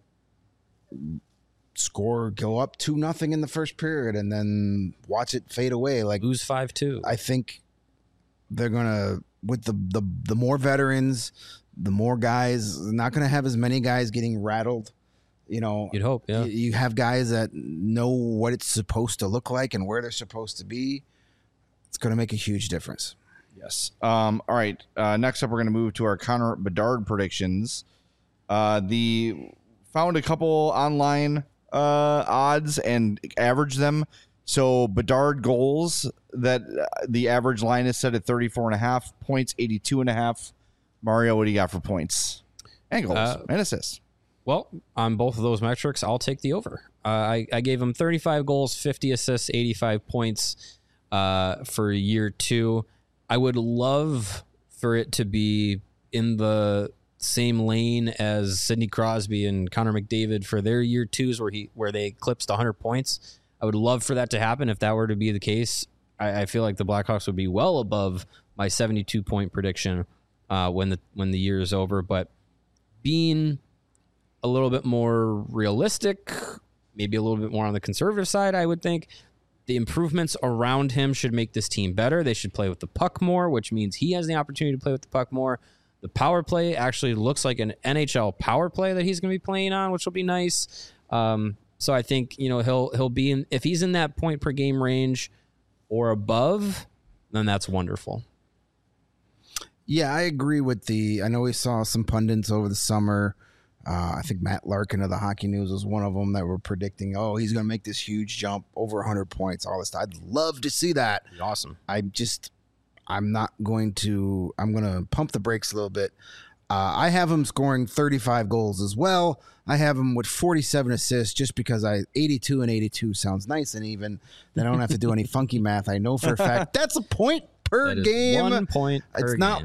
go up 2-0 in the first period and then watch it fade away? Like, lose 5-2. I think they're gonna, with the more veterans, the more guys, not gonna have as many guys getting rattled. You'd hope, yeah. You have guys that know what it's supposed to look like and where they're supposed to be. It's gonna make a huge difference. Yes. All right. Next up, we're going to move to our Connor Bedard predictions. Found a couple online odds and averaged them. So Bedard goals, that the average line is set at 34.5 points, 82.5. Mario, what do you got for points and goals and assists? Well, on both of those metrics, I'll take the over. I gave him 35 goals, 50 assists, 85 points for year 2. I would love for it to be in the same lane as Sidney Crosby and Connor McDavid for their year 2s where they eclipsed 100 points. I would love for that to happen. If that were to be the case, I feel like the Blackhawks would be well above my 72-point prediction when the year is over. But being a little bit more realistic, maybe a little bit more on the conservative side, I would think the improvements around him should make this team better. They should play with the puck more, which means he has the opportunity to play with the puck more. The power play actually looks like an NHL power play that he's going to be playing on, which will be nice. So I think, he'll be in, if he's in that point per game range or above, then that's wonderful. Yeah, I agree with I know we saw some pundits over the summer. I think Matt Larkin of the Hockey News was one of them that were predicting, he's going to make this huge jump over 100 points, all this stuff. I'd love to see that. Awesome. I'm going to pump the brakes a little bit. I have him scoring 35 goals as well. I have him with 47 assists just because 82 and 82 sounds nice and even. Then I don't have to do any funky math. I know for a fact that's a point per game. 1 point per It's game. not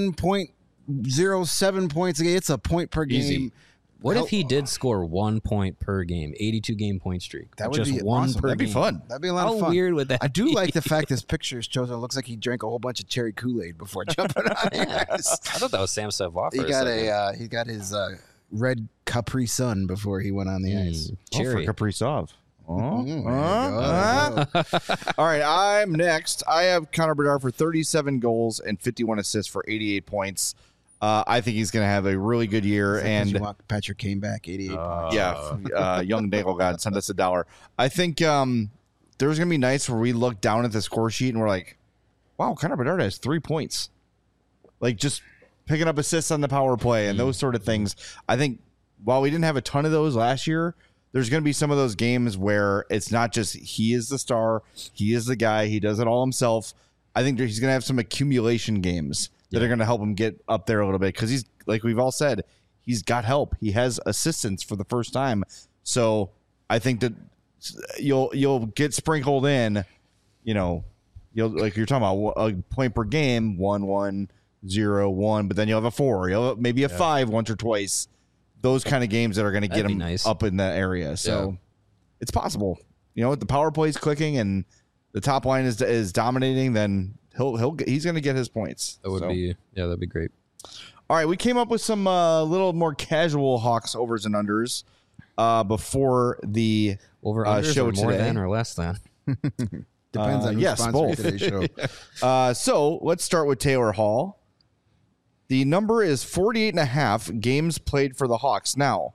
1.07 points a game. It's a point per Easy. game. What if he did score 1 point per game, 82 game point streak? That would just be one awesome. per That'd be game. fun. That'd be a lot How of fun. weird would that I do be? like the fact this picture is chosen. It looks like he drank a whole bunch of cherry Kool-Aid before jumping on the ice. I thought that was Sam Savoie. He got his red Capri Sun before he went on the ice. Cherry. For Kaprizov. There you go. All right, I'm next. I have Connor Bedard for 37 goals and 51 assists for 88 points. I think he's going to have a really good year. And And Patrick came back 88 points. young Nagel God sent us $1. I think there's going to be nights where we look down at the score sheet and we're like, wow, Connor Bedard has 3 points. Like just picking up assists on the power play and those sort of things. I think while we didn't have a ton of those last year, there's going to be some of those games where it's not just he is the star, he is the guy, he does it all himself. I think he's going to have some accumulation games that are going to help him get up there a little bit because he's, like we've all said, he's got help. He has assistance for the first time. So I think that you'll get sprinkled in, you'll like you're talking about a point per game, 1-1, 0-1, but then you'll have a 4, you'll have maybe a 5 once or twice. Those kind of games that are going to get him nice. up in that area. So it's possible. The power play is clicking and the top line is dominating, then he's going to get his points. That'd be great. All right, we came up with some little more casual Hawks overs and unders before the Over unders show or more today. than or less than? Depends on who's yes, sponsoring both. today's show. So let's start with Taylor Hall. The number is 48.5 games played for the Hawks. Now,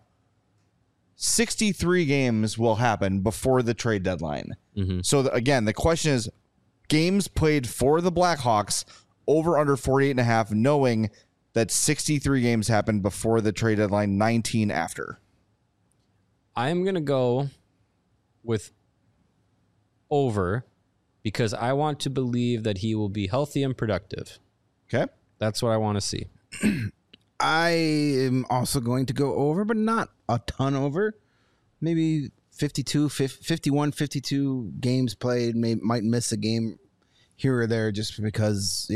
63 games will happen before the trade deadline. So again, the question is games played for the Blackhawks over under 48.5, knowing that 63 games happened before the trade deadline, 19 after. I'm going to go with over because I want to believe that he will be healthy and productive. Okay. That's what I want to see. I am also going to go over, but not a ton over. Maybe 51, 52 games played. Might miss a game here or there just because,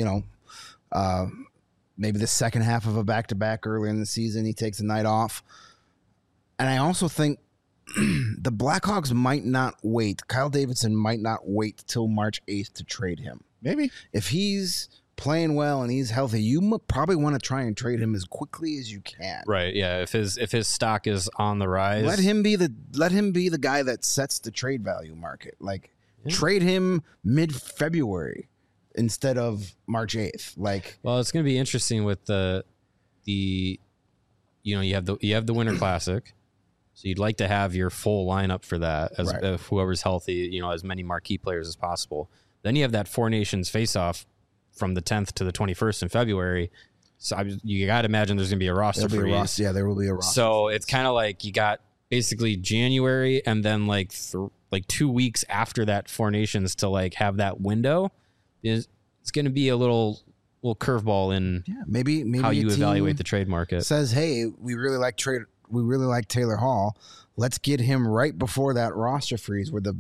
maybe the second half of a back-to-back early in the season, he takes a night off. And I also think the Blackhawks might not wait. Kyle Davidson might not wait till March 8th to trade him. Maybe. If he's playing well and he's healthy, you probably want to try and trade him as quickly as you can. Right. Yeah. If his stock is on the rise, Let him be the guy that sets the trade value market. Like trade him mid-February instead of March 8th. Well, it's going to be interesting with you have the Winter Classic. So you'd like to have your full lineup for that as Right. Whoever's healthy, as many marquee players as possible. Then you have that Four Nations face-off from the 10th to the 21st in February. So you got to imagine there's going to be a roster There'll be a freeze. roster. Yeah, there will be a roster. So it's kind of like you got basically January and then like 2 weeks after that Four Nations to have that window. It's going to be a little curveball in maybe how a you team evaluate the trade market. says, "Hey, we really like Taylor Hall. Let's get him right before that roster freeze where the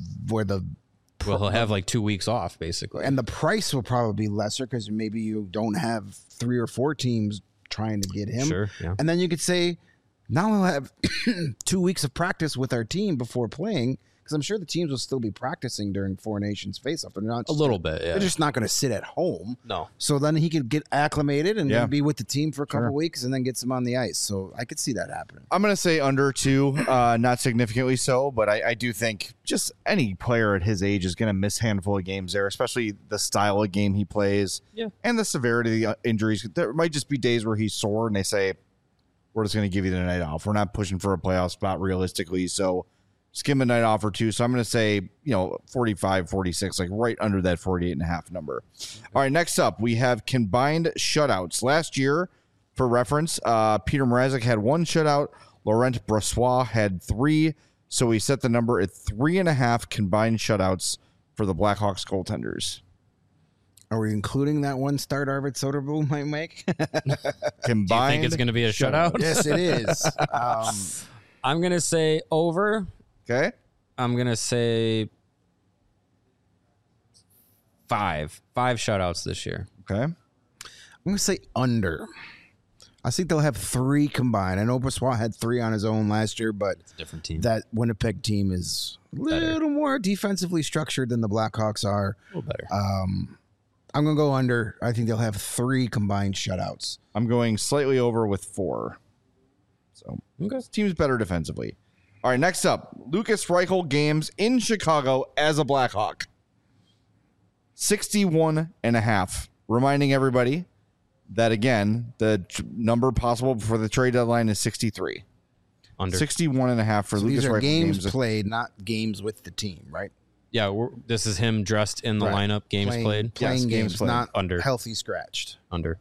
Well, he'll have 2 weeks off basically. and the price will probably be lesser because maybe you don't have 3 or 4 teams trying to get him. Sure, yeah. And then you could say, now we'll have 2 weeks of practice with our team before playing Because I'm sure the teams will still be practicing during Four Nations face-off. They're not A little bit, yeah. They're just not going to sit at home. No. So then he could get acclimated and Yeah. then be with the team for a couple Sure. weeks and then get some on the ice. So I could see that happening. I'm going to say under 2, not significantly so, but I do think just any player at his age is going to miss a handful of games there, especially the style of game he plays and the severity of the injuries. There might just be days where he's sore and they say, we're just going to give you the night off. We're not pushing for a playoff spot realistically, so just give him a night off or two. So I'm going to say, 45, 46, like right under that 48.5 number. All right, next up, we have combined shutouts. Last year, for reference, Peter Mrazek had 1 shutout. Laurent Brossoit had 3. So we set the number at 3.5 combined shutouts for the Blackhawks goaltenders. Are we including that one start Arvid Soderblom might make? Combined. Do you think it's going to be a shutout? Yes, it is. I'm going to say over. Okay. I'm going to say 5. 5 shutouts this year. Okay. I'm going to say under. I think they'll have 3 combined. I know Brossoit had 3 on his own last year, but It's a different team. that Winnipeg team is a little more defensively structured than the Blackhawks are. A little better. I'm going to go under. I think they'll have 3 combined shutouts. I'm going slightly over with 4. So Okay. this team's better defensively. All right, next up, Lucas Reichel games in Chicago as a Blackhawk. 61.5. Reminding everybody that, again, the number possible before the trade deadline is 63. Under. 61.5 for So Lucas these are Reichel games played, not games with the team, right? Yeah, this is him dressed in the Right. lineup. Games played. Playing Yes, games games, played. not Under. healthy scratched. Under.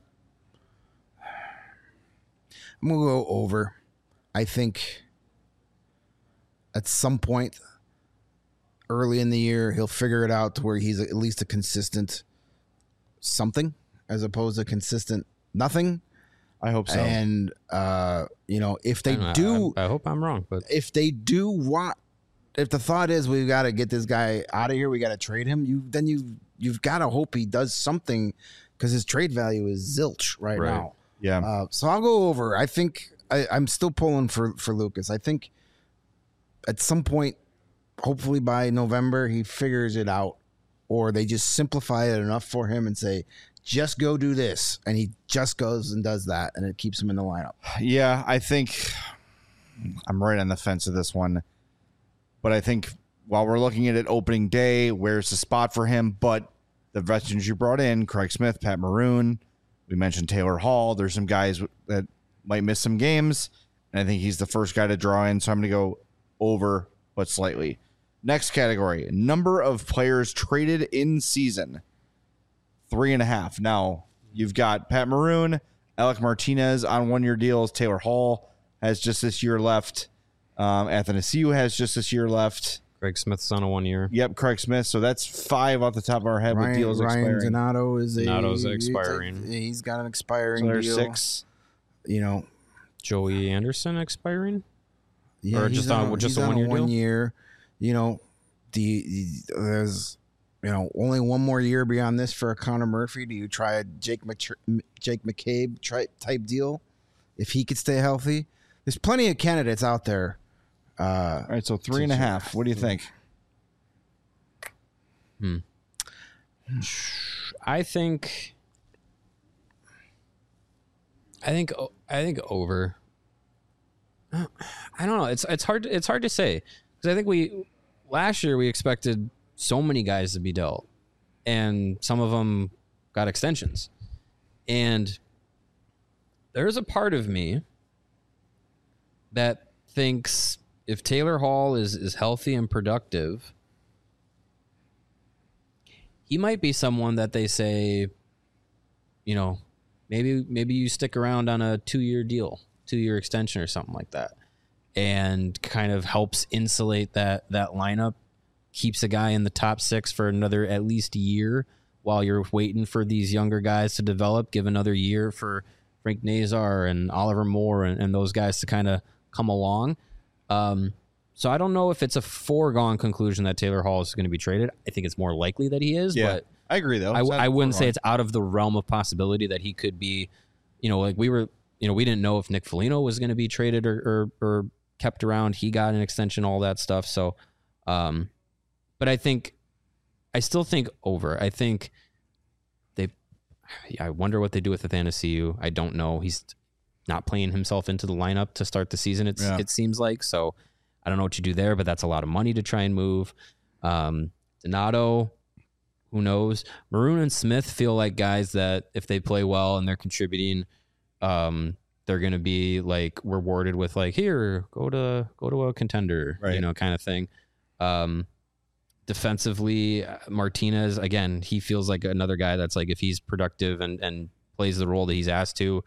I'm going to go over. I think at some point early in the year, he'll figure it out to where he's at least a consistent something as opposed to consistent nothing. I hope so. And, if they I do, I hope I'm wrong, but if they do want, if the thought is we've got to get this guy out of here, we got to trade him, you've got to hope he does something because his trade value is zilch right now. Yeah. So I'll go over. I think I'm still pulling for Lucas. I think at some point, hopefully by November, he figures it out, or they just simplify it enough for him and say, just go do this. And he just goes and does that, and it keeps him in the lineup. Yeah, I think I'm right on the fence of this one. But I think while we're looking at it opening day, where's the spot for him? But the veterans you brought in, Craig Smith, Pat Maroon, we mentioned Taylor Hall. There's some guys that might miss some games, and I think he's the first guy to draw in. So I'm going to go over, but slightly. Next category, number of players traded in season, 3.5. Now, you've got Pat Maroon, Alec Martinez on 1-year deals. Taylor Hall has just this year left. Athanasiou has just this year left. Craig Smith's on a 1 year. Yep, Craig Smith. So that's 5 off the top of our head with deals Ryan expiring. Donato is Donato's expiring. He's got an expiring So there's deal. 6. Joey Anderson expiring? Yeah, Or he's just on- just a he's 1 year deal? 1 year. There's only one more year beyond this for a Connor Murphy. Do you try a Jake McCabe type deal if he could stay healthy? There's plenty of candidates out there. All right, so 3.5. What do you think? I think over. I don't know. It's hard to say because I think last year we expected so many guys to be dealt, and some of them got extensions, and there's a part of me that thinks if Taylor Hall is healthy and productive, he might be someone that they say, maybe you stick around on a 2-year deal, 2-year extension or something like that, and kind of helps insulate that lineup, keeps a guy in the top 6 for another at least year while you're waiting for these younger guys to develop, give another year for Frank Nazar and Oliver Moore and those guys to kind of come along. So I don't know if it's a foregone conclusion that Taylor Hall is going to be traded. I think it's more likely that he is, but I agree, though. I wouldn't say it's out of the realm of possibility that he could be, like we didn't know if Nick Foligno was going to be traded or kept around. He got an extension, all that stuff. So But I still think over. I think I wonder what they do with Athanasiou. I don't know. He's not playing himself into the lineup to start the season, it seems like. So I don't know what you do there, but that's a lot of money to try and move. Donato, who knows? Maroon and Smith feel like guys that if they play well and they're contributing, they're going to be like rewarded with like, here, go to a contender, right. Kind of thing. Defensively, Martinez, again, he feels like another guy that's like, if he's productive and plays the role that he's asked to,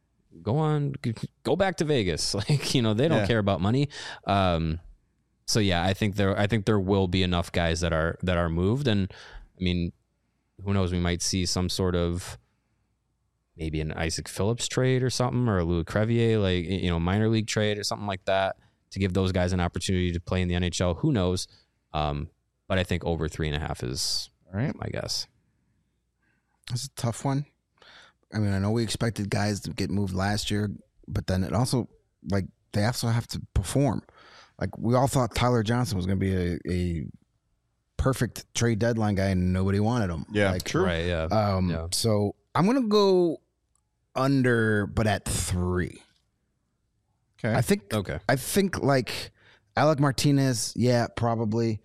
go back to Vegas. Like, they don't care about money. So yeah, I think there will be enough guys that are moved. And I mean, who knows, we might see some sort of maybe an Isaac Phillips trade or something, or a Louis Crevier, like, minor league trade or something like that to give those guys an opportunity to play in the NHL. Who knows? But I think over 3.5 is all right. My guess. It's a tough one. I mean, I know we expected guys to get moved last year, but then it also, like, they also have to perform. Like, we all thought Tyler Johnson was going to be a perfect trade deadline guy, and nobody wanted him. Yeah, like, true. Right, yeah. So I'm going to go under, but at 3. Okay. I think like Alec Martinez, yeah, probably.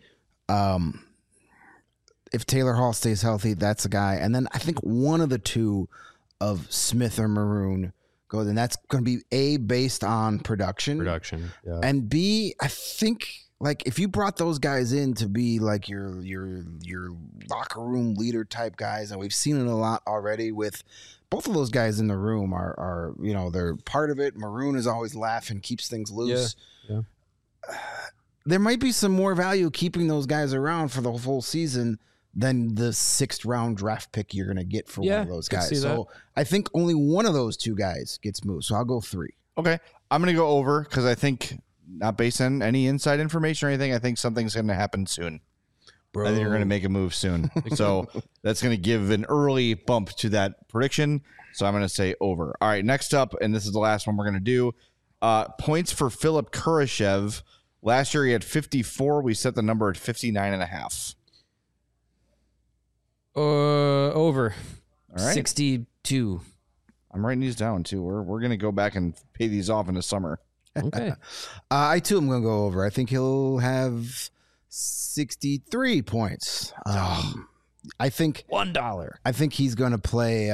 If Taylor Hall stays healthy, that's a guy. And then I think one of the two of Smith or Maroon goes, and that's going to be A, based on production. Yeah. And B, I think like if you brought those guys in to be like your locker room leader type guys, and we've seen it a lot already with both of those guys in the room are they're part of it. Maroon is always laughing, keeps things loose. Yeah. There might be some more value keeping those guys around for the full season than the 6th round draft pick you're going to get for one of those guys. So I think only one of those two guys gets moved. So I'll go 3. Okay. I'm going to go over because I think, not based on any inside information or anything, I think something's going to happen soon. Bro. I think you're going to make a move soon. So that's going to give an early bump to that prediction. So I'm going to say over. All right, next up, and this is the last one we're going to do, points for Philip Kurashev. Last year he had 54. We set the number at 59.5. Over. All right. 62. I'm writing these down too. We're going to go back and pay these off in the summer. Okay. I too am going to go over. I think he'll have 63 points. I think $1. I think he's going to play.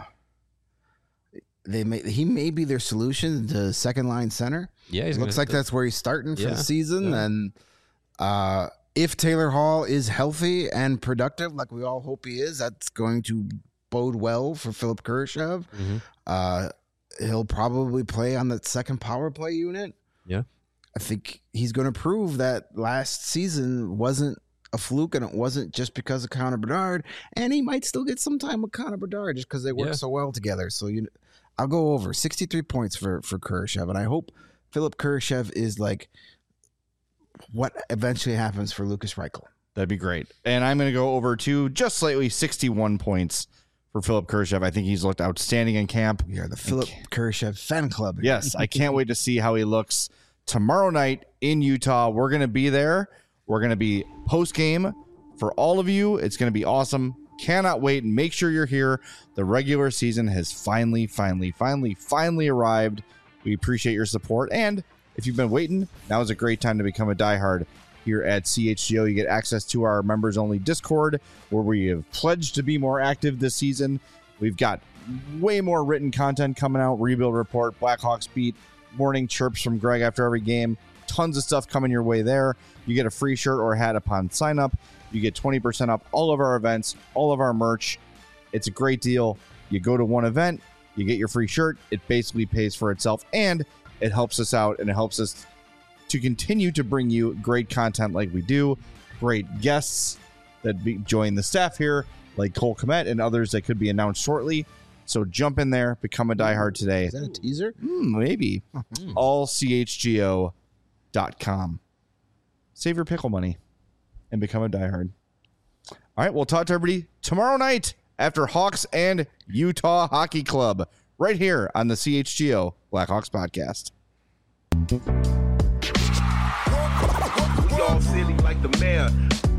He may be their solution to second line center. Yeah, it looks like that's where he's starting for the season. Yeah. And if Taylor Hall is healthy and productive, like we all hope he is, that's going to bode well for Philip Kurashev. Mm-hmm. He'll probably play on the second power play unit. Yeah. I think he's going to prove that last season wasn't a fluke, and it wasn't just because of Connor Bedard. And he might still get some time with Connor Bedard just because they work so well together. So I'll go over 63 points for Kurashev, and I hope Philip Kurashev is like what eventually happens for Lucas Reichel. That'd be great. And I'm going to go over to just slightly 61 points for Philip Kurashev. I think he's looked outstanding in camp. We are the Philip Kurashev fan club. Yes, I can't wait to see how he looks tomorrow night in Utah. We're going to be there. We're going to be post-game for all of you. It's going to be awesome. Cannot wait. And make sure you're here. The regular season has finally arrived. We appreciate your support. And if you've been waiting, now is a great time to become a diehard here at CHGO. You get access to our members-only Discord, where we have pledged to be more active this season. We've got way more written content coming out. Rebuild Report, Blackhawks Beat, morning chirps from Greg after every game. Tons of stuff coming your way there. You get a free shirt or hat upon sign up. You get 20% off all of our events, all of our merch. It's a great deal. You go to one event, you get your free shirt. It basically pays for itself, and it helps us out, and it helps us to continue to bring you great content like we do. Great guests that join the staff here, like Cole Kmet and others that could be announced shortly. So jump in there, become a diehard today. Is that a teaser? Maybe. AllCHGO.com. Save your pickle money and become a diehard. All right, we'll talk to everybody tomorrow night after Hawks and Utah Hockey Club right here on the CHGO Blackhawks podcast. all silly like the mayor.